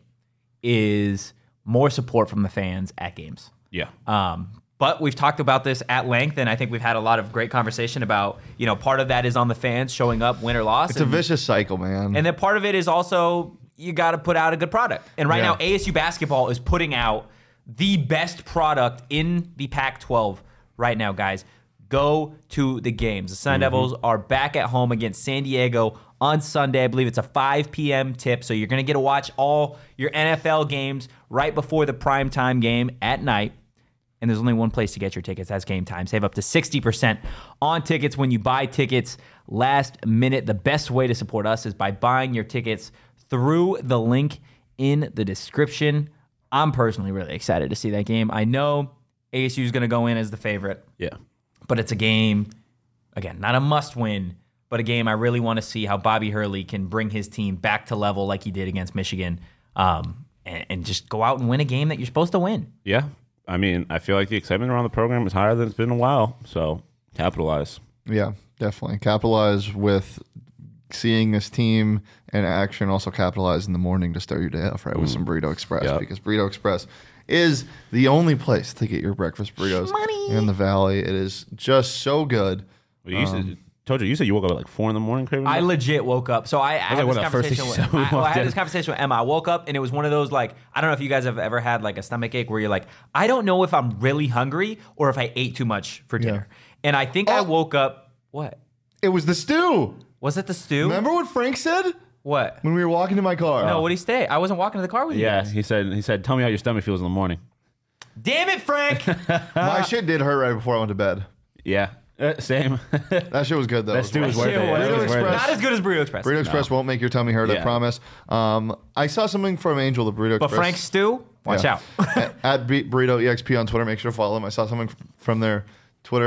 [SPEAKER 1] is more support from the fans at games.
[SPEAKER 3] Yeah.
[SPEAKER 1] Um, but we've talked about this at length, and I think we've had a lot of great conversation about, you know, part of that is on the fans showing up, win or loss.
[SPEAKER 2] It's a
[SPEAKER 1] and,
[SPEAKER 2] vicious cycle, man.
[SPEAKER 1] and then part of it is also you got to put out a good product. And right
[SPEAKER 2] Yeah.
[SPEAKER 1] now, A S U basketball is putting out the best product in the Pac twelve right now, guys. Go to the games. The Sun Devils are back at home against San Diego on Sunday. I believe it's a five p.m. tip, so you're going to get to watch all your N F L games right before the primetime game at night. And there's only one place to get your tickets. That's Game Time. Save up to sixty percent on tickets when you buy tickets last minute. The best way to support us is by buying your tickets through the link in the description. I'm personally really excited to see that game. I know A S U is going to go in as the favorite,
[SPEAKER 3] Yeah.
[SPEAKER 1] but it's a game, again, not a must win, but a game I really want to see how Bobby Hurley can bring his team back to level like he did against Michigan, um, and, and just go out and win a game that you're supposed to win.
[SPEAKER 3] Yeah. I mean, I feel like the excitement around the program is higher than it's been in a while. So capitalize.
[SPEAKER 2] Yeah, definitely. Capitalize with seeing this team in action. Also capitalize in the morning to start your day off right with some Burrito Express
[SPEAKER 3] Yep.
[SPEAKER 2] because Burrito Express is the only place to get your breakfast burritos in the Valley. It is just so good.
[SPEAKER 3] Well, you said, told you, you said you woke up at like four in the morning craving
[SPEAKER 1] I
[SPEAKER 3] that?
[SPEAKER 1] legit woke up. So I, I had
[SPEAKER 3] like
[SPEAKER 1] this
[SPEAKER 3] one of the first
[SPEAKER 1] conversation
[SPEAKER 3] things
[SPEAKER 1] with,
[SPEAKER 3] you said when we
[SPEAKER 1] I, well, I
[SPEAKER 3] walked
[SPEAKER 1] had
[SPEAKER 3] in.
[SPEAKER 1] this conversation with Emma. I woke up and it was one of those like, I don't know if you guys have ever had like a stomach ache where you're like, I don't know if I'm really hungry or if I ate too much for dinner. And I think I
[SPEAKER 2] Oh.
[SPEAKER 1] woke up, what?
[SPEAKER 2] It was the stew.
[SPEAKER 1] Was it the stew?
[SPEAKER 2] Remember what Frank said
[SPEAKER 1] What?
[SPEAKER 2] when we were walking to my car?
[SPEAKER 1] No, what did he say? I wasn't walking to the car with you
[SPEAKER 3] Yeah,
[SPEAKER 1] guys.
[SPEAKER 3] he said. He said, "Tell me how your stomach feels in the morning."
[SPEAKER 1] Damn it, Frank.
[SPEAKER 2] My shit did hurt right before I went to bed.
[SPEAKER 3] Yeah, uh, same.
[SPEAKER 2] That shit was good though.
[SPEAKER 3] That stew was worth it.
[SPEAKER 1] Shit,
[SPEAKER 3] That
[SPEAKER 1] Burrito
[SPEAKER 3] was worth it.
[SPEAKER 2] Express.
[SPEAKER 1] Not as good as Burrito Express.
[SPEAKER 2] Burrito Express won't make your tummy hurt, I
[SPEAKER 3] Yeah.
[SPEAKER 2] promise. Um, I saw something from Angel, the Burrito
[SPEAKER 1] but
[SPEAKER 2] Express.
[SPEAKER 1] Frank's stew, watch
[SPEAKER 2] Yeah.
[SPEAKER 1] out.
[SPEAKER 2] at, at B- Burrito E X P on Twitter. Make sure to follow them. I saw something f- from their Twitter.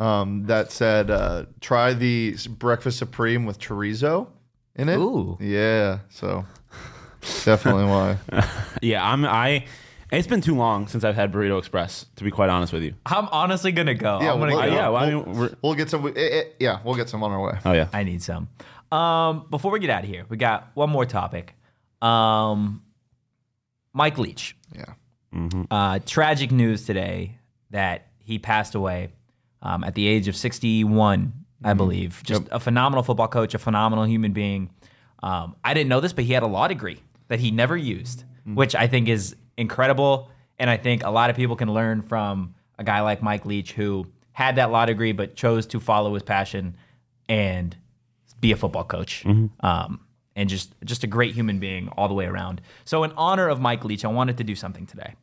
[SPEAKER 2] um, that said, uh, try the breakfast supreme with chorizo in it.
[SPEAKER 1] Ooh.
[SPEAKER 2] Yeah, so definitely why.
[SPEAKER 3] Yeah, I'm. I. It's been too long since I've had Burrito Express. To be quite honest with you.
[SPEAKER 1] I'm honestly gonna go.
[SPEAKER 2] Yeah,
[SPEAKER 1] I'm gonna
[SPEAKER 2] well,
[SPEAKER 1] go.
[SPEAKER 3] Uh, yeah, well, I
[SPEAKER 2] we'll,
[SPEAKER 3] mean, we're,
[SPEAKER 2] we'll get some. It, it, yeah, we'll get some on our way.
[SPEAKER 3] oh yeah.
[SPEAKER 1] I need some. Um, before we get out of here, we got one more topic. Um, Mike Leach.
[SPEAKER 2] Yeah.
[SPEAKER 1] Uh, tragic news today that he passed away um, at the age of sixty-one, I believe. Just a phenomenal football coach, a phenomenal human being. Um, I didn't know this, but he had a law degree that he never used, which I think is incredible. And I think a lot of people can learn from a guy like Mike Leach, who had that law degree but chose to follow his passion and be a football coach. Um, and just, just a great human being all the way around. So in honor of Mike Leach, I wanted to do something today.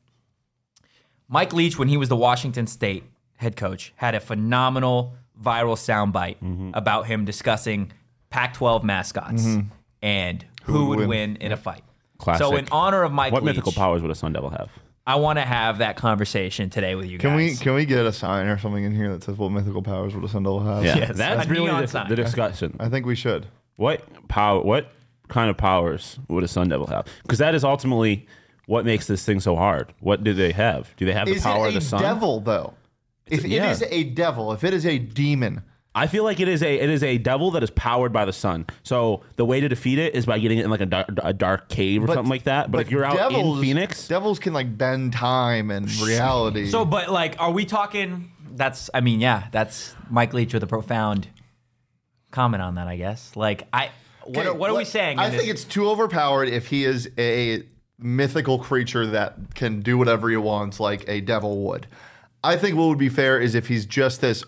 [SPEAKER 1] Mike Leach, when he was the Washington State head coach, had a phenomenal viral soundbite
[SPEAKER 3] Mm-hmm.
[SPEAKER 1] about him discussing Pac twelve mascots and who,
[SPEAKER 2] would
[SPEAKER 1] would
[SPEAKER 2] win.
[SPEAKER 1] win in a fight.
[SPEAKER 3] Classic.
[SPEAKER 1] So in honor of Mike
[SPEAKER 3] What
[SPEAKER 1] Leach,
[SPEAKER 3] mythical powers would a Sun Devil have?
[SPEAKER 1] I want to have that conversation today with you
[SPEAKER 2] Can we
[SPEAKER 1] guys.
[SPEAKER 2] can we get a sign or something in here that says what mythical powers would a Sun Devil have?
[SPEAKER 3] Yeah,
[SPEAKER 1] Yes,
[SPEAKER 3] that's
[SPEAKER 1] a
[SPEAKER 3] really
[SPEAKER 1] neon
[SPEAKER 3] the,
[SPEAKER 1] sign.
[SPEAKER 3] the discussion.
[SPEAKER 2] I think we should.
[SPEAKER 3] What power? What kind of powers would a Sun Devil have? Because that is ultimately what makes this thing so hard. What do they have? Do they have the
[SPEAKER 2] Is
[SPEAKER 3] power
[SPEAKER 2] it
[SPEAKER 3] of the
[SPEAKER 2] a
[SPEAKER 3] sun?
[SPEAKER 2] devil though? If
[SPEAKER 3] yeah.
[SPEAKER 2] it is a devil, if it is a demon,
[SPEAKER 3] I feel like it is a it is a devil that is powered by the sun. So the way to defeat it is by getting it in like a dark, a dark cave or
[SPEAKER 2] But-
[SPEAKER 3] something like that. But, if you're out
[SPEAKER 2] devils,
[SPEAKER 3] in Phoenix,
[SPEAKER 2] devils can like bend time and reality.
[SPEAKER 1] So, but like, are we talking? That's, I mean, yeah, that's Mike Leach with a profound comment on that, I guess. Like, I, what,
[SPEAKER 2] Okay,
[SPEAKER 1] are, what are we
[SPEAKER 2] let-
[SPEAKER 1] saying?
[SPEAKER 2] I
[SPEAKER 1] in
[SPEAKER 2] think
[SPEAKER 1] this-
[SPEAKER 2] it's too overpowered if he is a mythical creature that can do whatever he wants, like a devil would. I think what would be fair is if he's just this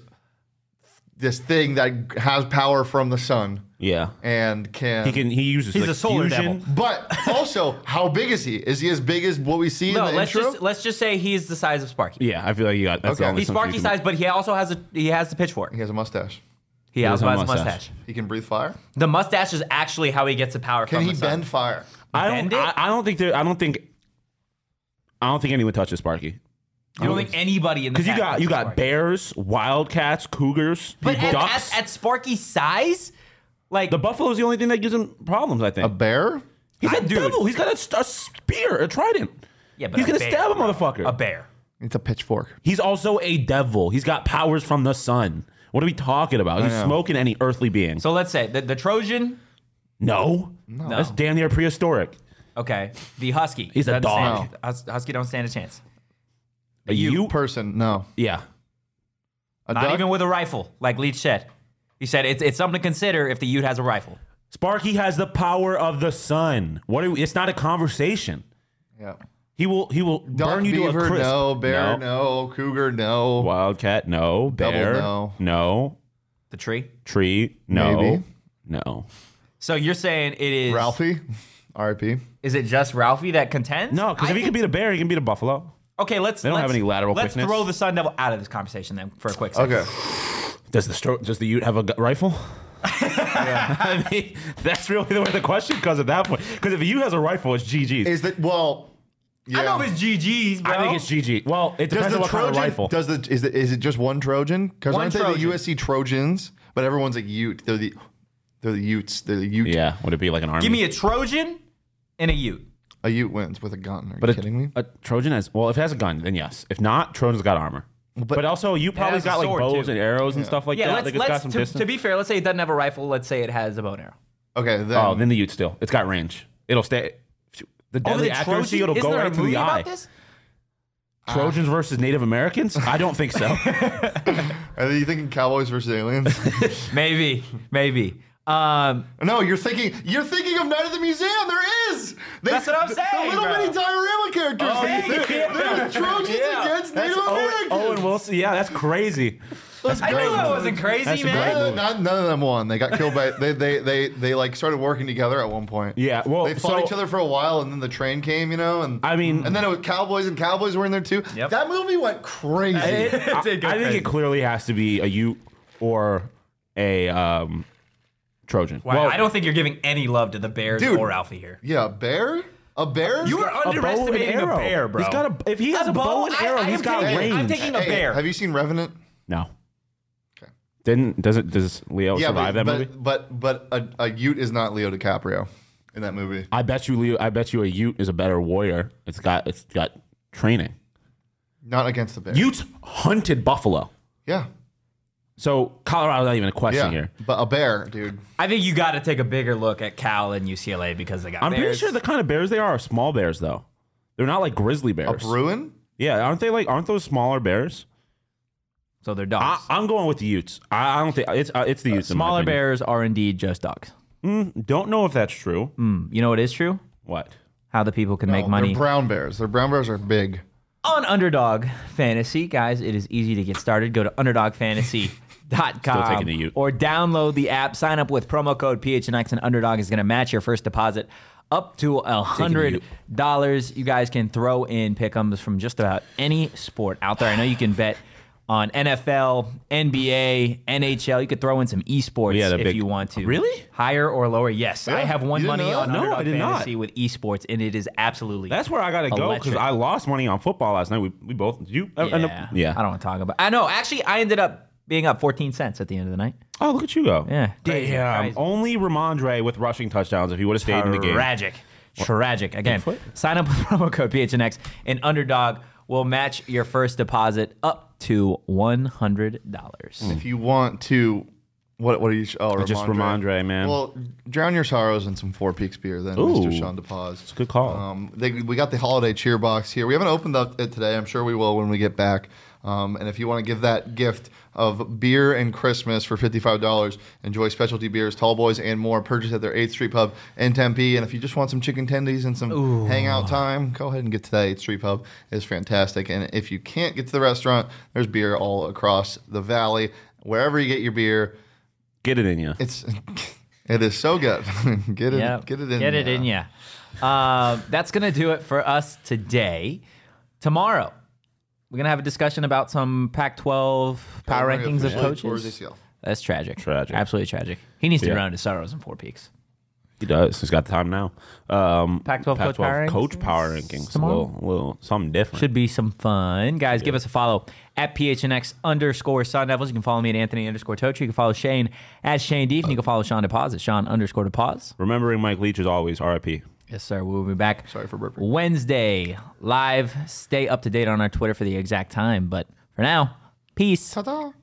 [SPEAKER 2] this thing that has power from the sun
[SPEAKER 3] yeah,
[SPEAKER 2] and can.
[SPEAKER 3] he can he uses
[SPEAKER 1] He's
[SPEAKER 3] like
[SPEAKER 1] a solar
[SPEAKER 3] fusion.
[SPEAKER 1] devil.
[SPEAKER 2] But also, how big is he? Is he as big as what we see
[SPEAKER 1] no.
[SPEAKER 2] in the
[SPEAKER 1] Let's
[SPEAKER 2] intro?
[SPEAKER 1] just let's just say he's the size of Sparky.
[SPEAKER 3] Yeah, I feel like you got that's
[SPEAKER 2] Okay.
[SPEAKER 3] the only
[SPEAKER 1] He's
[SPEAKER 3] assumption
[SPEAKER 1] Sparky
[SPEAKER 3] you can
[SPEAKER 1] size, but he also has a he has the pitchfork.
[SPEAKER 2] He has a mustache.
[SPEAKER 1] He,
[SPEAKER 3] He
[SPEAKER 1] also
[SPEAKER 3] does
[SPEAKER 1] has
[SPEAKER 3] have
[SPEAKER 1] a
[SPEAKER 3] a
[SPEAKER 1] mustache.
[SPEAKER 3] mustache.
[SPEAKER 2] He can breathe fire.
[SPEAKER 1] The mustache is actually how he gets the power
[SPEAKER 2] Can
[SPEAKER 1] from
[SPEAKER 2] he
[SPEAKER 1] the sun.
[SPEAKER 2] bend fire?
[SPEAKER 3] make. I don't.
[SPEAKER 1] Bend it?
[SPEAKER 3] I, I don't think there. I don't think. I don't think anyone touches Sparky.
[SPEAKER 1] You don't think anybody in the
[SPEAKER 3] Because you
[SPEAKER 1] pack
[SPEAKER 3] got
[SPEAKER 1] touches
[SPEAKER 3] you got
[SPEAKER 1] Sparky.
[SPEAKER 3] bears, wildcats, cougars,
[SPEAKER 1] but at,
[SPEAKER 3] ducks.
[SPEAKER 1] at, at Sparky's size, like
[SPEAKER 3] the buffalo's the only thing that gives him problems. I think
[SPEAKER 2] A bear?
[SPEAKER 3] he's
[SPEAKER 1] I-
[SPEAKER 3] a
[SPEAKER 1] dude.
[SPEAKER 3] devil. He's got a, a spear, a trident.
[SPEAKER 1] yeah, but
[SPEAKER 3] he's
[SPEAKER 1] a
[SPEAKER 3] gonna
[SPEAKER 1] bear,
[SPEAKER 3] stab a
[SPEAKER 1] bro.
[SPEAKER 3] motherfucker.
[SPEAKER 1] A bear.
[SPEAKER 2] It's a pitchfork.
[SPEAKER 3] He's also a devil. He's got powers from the sun. What are we talking about? He's
[SPEAKER 2] know.
[SPEAKER 3] smoking any earthly being.
[SPEAKER 1] So let's say the, the Trojan.
[SPEAKER 3] no,
[SPEAKER 1] No.
[SPEAKER 3] that's damn near prehistoric.
[SPEAKER 1] Okay, the husky.
[SPEAKER 3] He's a
[SPEAKER 1] doesn't
[SPEAKER 3] dog.
[SPEAKER 1] stand- hus- husky don't stand a chance.
[SPEAKER 3] A you?
[SPEAKER 2] Person? No.
[SPEAKER 3] Yeah.
[SPEAKER 2] A
[SPEAKER 1] Not
[SPEAKER 2] duck?
[SPEAKER 1] even with a rifle, like Leach said. He said it's it's something to consider if the Ute has a rifle.
[SPEAKER 3] Sparky has the power of the sun. What? Are we, it's not a conversation.
[SPEAKER 2] Yeah.
[SPEAKER 3] He will. He will
[SPEAKER 2] Duck,
[SPEAKER 3] burn you
[SPEAKER 2] beaver,
[SPEAKER 3] to a crisp.
[SPEAKER 2] no. Bear, no. Cougar, no.
[SPEAKER 3] Wildcat, no.
[SPEAKER 2] Double,
[SPEAKER 3] Bear,
[SPEAKER 2] no.
[SPEAKER 3] no.
[SPEAKER 1] The tree.
[SPEAKER 3] Tree, no.
[SPEAKER 2] Maybe.
[SPEAKER 3] No.
[SPEAKER 1] So you're saying it is
[SPEAKER 2] Ralphie, R I P.
[SPEAKER 1] Is it just Ralphie that contends?
[SPEAKER 3] No, because
[SPEAKER 1] I
[SPEAKER 3] if he
[SPEAKER 1] think-
[SPEAKER 3] can beat a bear, he can beat a buffalo.
[SPEAKER 1] Okay, let's.
[SPEAKER 3] They don't
[SPEAKER 1] let's,
[SPEAKER 3] have any lateral
[SPEAKER 1] Let's
[SPEAKER 3] quickness.
[SPEAKER 1] throw the Sun Devil out of this conversation then for a quick second.
[SPEAKER 2] Okay.
[SPEAKER 3] Does the stro- does the Ute have a gu- rifle? I mean, that's really the way the question comes at that point. Because if the Ute has a rifle, it's G G's.
[SPEAKER 2] Is that well? Yeah.
[SPEAKER 1] I know it's G G's, bro.
[SPEAKER 3] I think it's G G. Well, it
[SPEAKER 2] Does
[SPEAKER 3] depends
[SPEAKER 2] the
[SPEAKER 3] on what
[SPEAKER 2] Trojan?
[SPEAKER 3] kind of rifle.
[SPEAKER 2] Does the is the, is it just one Trojan? Because
[SPEAKER 1] One
[SPEAKER 2] aren't they the
[SPEAKER 1] Trojan.
[SPEAKER 2] U S C Trojans? But everyone's a Ute. They're the they're the Utes. They're the Ute.
[SPEAKER 3] yeah, would it be like an army?
[SPEAKER 1] Give me a Trojan and a Ute.
[SPEAKER 2] A Ute wins with a gun. Are
[SPEAKER 3] but
[SPEAKER 2] you
[SPEAKER 3] a,
[SPEAKER 2] kidding me?
[SPEAKER 3] a Trojan has well, if it has a gun, then yes. If not, Trojan's got armor. But, also, you probably
[SPEAKER 1] has a
[SPEAKER 3] got like
[SPEAKER 1] sword,
[SPEAKER 3] bows
[SPEAKER 1] too.
[SPEAKER 3] and arrows and stuff like
[SPEAKER 1] Yeah,
[SPEAKER 3] that.
[SPEAKER 1] let's
[SPEAKER 3] Like, it's got
[SPEAKER 1] let's
[SPEAKER 3] some
[SPEAKER 1] to,
[SPEAKER 3] distance.
[SPEAKER 1] to be fair, let's say it doesn't have a rifle. Let's say it has a bow and arrow.
[SPEAKER 2] Okay, then.
[SPEAKER 3] oh, then the Ute still. It's got range. It'll stay. The
[SPEAKER 1] Oh,
[SPEAKER 3] deadly
[SPEAKER 1] the
[SPEAKER 3] accuracy,
[SPEAKER 1] Trojan?
[SPEAKER 3] it'll
[SPEAKER 1] Isn't
[SPEAKER 3] go
[SPEAKER 1] there a
[SPEAKER 3] right to
[SPEAKER 1] movie
[SPEAKER 3] the eye.
[SPEAKER 1] about this?
[SPEAKER 3] Trojans versus Native Americans? I don't think so.
[SPEAKER 2] Are you thinking Cowboys versus aliens?
[SPEAKER 1] Maybe, maybe. Um,
[SPEAKER 2] No, you're thinking you're thinking of Night at the Museum. There is. They,
[SPEAKER 1] That's what I'm
[SPEAKER 2] the,
[SPEAKER 1] saying,
[SPEAKER 2] The little
[SPEAKER 1] bro.
[SPEAKER 2] mini diorama characters.
[SPEAKER 3] Oh,
[SPEAKER 2] They-
[SPEAKER 3] yeah.
[SPEAKER 2] they're, they're Trojans
[SPEAKER 1] Yeah.
[SPEAKER 2] against
[SPEAKER 3] That's
[SPEAKER 2] Native
[SPEAKER 3] Owen,
[SPEAKER 2] Americans.
[SPEAKER 3] Owen Wilson. Yeah, that's crazy.
[SPEAKER 2] That's
[SPEAKER 1] I
[SPEAKER 2] great.
[SPEAKER 1] knew that wasn't crazy,
[SPEAKER 3] That's a
[SPEAKER 1] man.
[SPEAKER 3] great
[SPEAKER 2] None,
[SPEAKER 3] movie.
[SPEAKER 2] none, none of them won. They got killed by they they they they like started working together at one point.
[SPEAKER 3] Yeah, well,
[SPEAKER 2] they fought
[SPEAKER 3] so-
[SPEAKER 2] each other for a while, and then the train came, you know, and
[SPEAKER 3] I mean-
[SPEAKER 2] and then it was Cowboys, and Cowboys were in there too.
[SPEAKER 1] Yep.
[SPEAKER 2] That movie went crazy.
[SPEAKER 3] It- I,
[SPEAKER 1] did go
[SPEAKER 3] I think
[SPEAKER 1] crazy.
[SPEAKER 3] it clearly has to be a Ute or a um, Trojan.
[SPEAKER 1] Wow,
[SPEAKER 3] Well,
[SPEAKER 1] I don't think you're giving any love to the Bears
[SPEAKER 2] Dude.
[SPEAKER 1] or Ralphie here.
[SPEAKER 2] yeah, a bear, a bear.
[SPEAKER 1] You are
[SPEAKER 3] a bow and
[SPEAKER 1] underestimating a
[SPEAKER 3] arrow.
[SPEAKER 1] bear, bro.
[SPEAKER 3] He's got a if he has a bow and
[SPEAKER 1] I-
[SPEAKER 3] arrow,
[SPEAKER 1] I
[SPEAKER 3] he's
[SPEAKER 1] am
[SPEAKER 3] got
[SPEAKER 1] taking-
[SPEAKER 3] range.
[SPEAKER 1] I'm taking a
[SPEAKER 2] Hey,
[SPEAKER 1] bear.
[SPEAKER 2] Have you seen Revenant?
[SPEAKER 3] no. Didn't does it does Leo
[SPEAKER 2] Yeah,
[SPEAKER 3] survive
[SPEAKER 2] but,
[SPEAKER 3] that movie?
[SPEAKER 2] but but but a, a Ute is not Leo DiCaprio in that movie.
[SPEAKER 3] I bet you Leo. I bet you a Ute is a better warrior. It's got it's got training.
[SPEAKER 2] Not against the bear.
[SPEAKER 3] Utes hunted buffalo.
[SPEAKER 2] Yeah.
[SPEAKER 3] So Colorado's not even a question
[SPEAKER 2] Yeah.
[SPEAKER 3] here.
[SPEAKER 2] But a bear, dude.
[SPEAKER 1] I think you got to take a bigger look at Cal and U C L A because they got
[SPEAKER 3] I'm pretty
[SPEAKER 1] bears.
[SPEAKER 3] sure the kind of bears they are are small bears though. They're not like grizzly
[SPEAKER 2] A
[SPEAKER 3] bears.
[SPEAKER 2] Bruin?
[SPEAKER 3] Yeah, aren't they like aren't those smaller bears?
[SPEAKER 1] So they're
[SPEAKER 3] I,
[SPEAKER 1] dogs.
[SPEAKER 3] I'm going with the Utes. I, I don't think it's uh, it's the Utes. in my
[SPEAKER 1] Smaller
[SPEAKER 3] opinion.
[SPEAKER 1] bears are indeed just dogs.
[SPEAKER 3] Mm, don't know if that's true.
[SPEAKER 1] Mm, you know what is true?
[SPEAKER 3] What?
[SPEAKER 1] How the people can make
[SPEAKER 2] No,
[SPEAKER 1] money.
[SPEAKER 2] They're brown bears. Their brown bears are big.
[SPEAKER 1] On Underdog Fantasy, guys, it is easy to get started. Go to underdog fantasy dot com
[SPEAKER 3] Still taking the Ute.
[SPEAKER 1] or download the app. Sign up with promo code P H N X, and Underdog is going to match your first deposit up to one hundred dollars. You guys can throw in pick'ems from just about any sport out there. I know you can bet on N F L, N B A, N H L. You could throw in some esports
[SPEAKER 3] Yeah, the
[SPEAKER 1] if
[SPEAKER 3] big-
[SPEAKER 1] you want to.
[SPEAKER 3] Really?
[SPEAKER 1] Higher or lower? Yes. I
[SPEAKER 2] Yeah,
[SPEAKER 1] have won
[SPEAKER 2] you didn't
[SPEAKER 1] money
[SPEAKER 2] know that?
[SPEAKER 1] on
[SPEAKER 3] No,
[SPEAKER 1] Underdog
[SPEAKER 3] I did not.
[SPEAKER 1] Fantasy with esports, and it is absolutely
[SPEAKER 3] That's where I got to go because
[SPEAKER 1] Electric.
[SPEAKER 3] I lost money on football last night. We we both did you uh, end up-
[SPEAKER 1] Yeah.
[SPEAKER 3] yeah.
[SPEAKER 1] I don't want to talk about. I know. Actually, I ended up being up fourteen cents at the end of the night.
[SPEAKER 3] Oh, look at you go.
[SPEAKER 1] Yeah, crazy,
[SPEAKER 3] Damn.
[SPEAKER 1] crazy.
[SPEAKER 3] Only Ramondre with rushing touchdowns if he would have stayed in the game.
[SPEAKER 1] Tragic. Tragic. Again,
[SPEAKER 3] Bigfoot?
[SPEAKER 1] sign up with promo code P H N X, and Underdog will match your first deposit up to one hundred dollars.
[SPEAKER 2] If you want to, what what are you? Oh,
[SPEAKER 3] Just Ramondre, man.
[SPEAKER 2] Well, drown your sorrows in some Four Peaks beer, then,
[SPEAKER 3] Ooh.
[SPEAKER 2] Mister Sean DePaz.
[SPEAKER 3] It's a good call.
[SPEAKER 2] Um, they, we got the holiday cheer box here. We haven't opened up it today. I'm sure we will when we get back. Um, and if you want to give that gift of beer and Christmas for fifty-five dollars, enjoy specialty beers, tall boys, and more. Purchase at their eighth Street Pub in Tempe. And if you just want some chicken tendies and some hangout time, go ahead and get to that eighth Street Pub. It's fantastic. And if you can't get to the restaurant, there's beer all across the valley. Wherever you get your beer,
[SPEAKER 3] Get it in you.
[SPEAKER 2] it's it is so good. get it,
[SPEAKER 1] Yep.
[SPEAKER 2] get it in.
[SPEAKER 1] Get it
[SPEAKER 2] ya.
[SPEAKER 1] in ya. Uh, that's going to do it for us today. Tomorrow, we're going to have a discussion about some Pac twelve power
[SPEAKER 2] Kyler Murray
[SPEAKER 1] rankings of
[SPEAKER 2] officially tore his
[SPEAKER 1] coaches.
[SPEAKER 2] A C L.
[SPEAKER 1] That's tragic.
[SPEAKER 3] Tragic.
[SPEAKER 1] Absolutely tragic. He needs to
[SPEAKER 3] Yeah.
[SPEAKER 1] drown his sorrows in Four Peaks.
[SPEAKER 3] He does. He's got the time now. Um,
[SPEAKER 1] Pac twelve coach power
[SPEAKER 3] coach
[SPEAKER 1] rankings
[SPEAKER 3] power rankings. A
[SPEAKER 1] tomorrow?
[SPEAKER 3] little, little something different.
[SPEAKER 1] Should be some fun. Guys, give us a follow at P H N X underscore Sun Devils. You can follow me at Anthony underscore Tochi. You can follow Shane at Shane Deef. And you can follow Sean DePaz at Sean underscore DePaz.
[SPEAKER 3] Remembering Mike Leach is always R I P.
[SPEAKER 1] Yes, sir. We'll be back
[SPEAKER 2] Sorry for burping.
[SPEAKER 1] Wednesday live. Stay up to date on our Twitter for the exact time. But for now, peace.
[SPEAKER 2] Ta-da.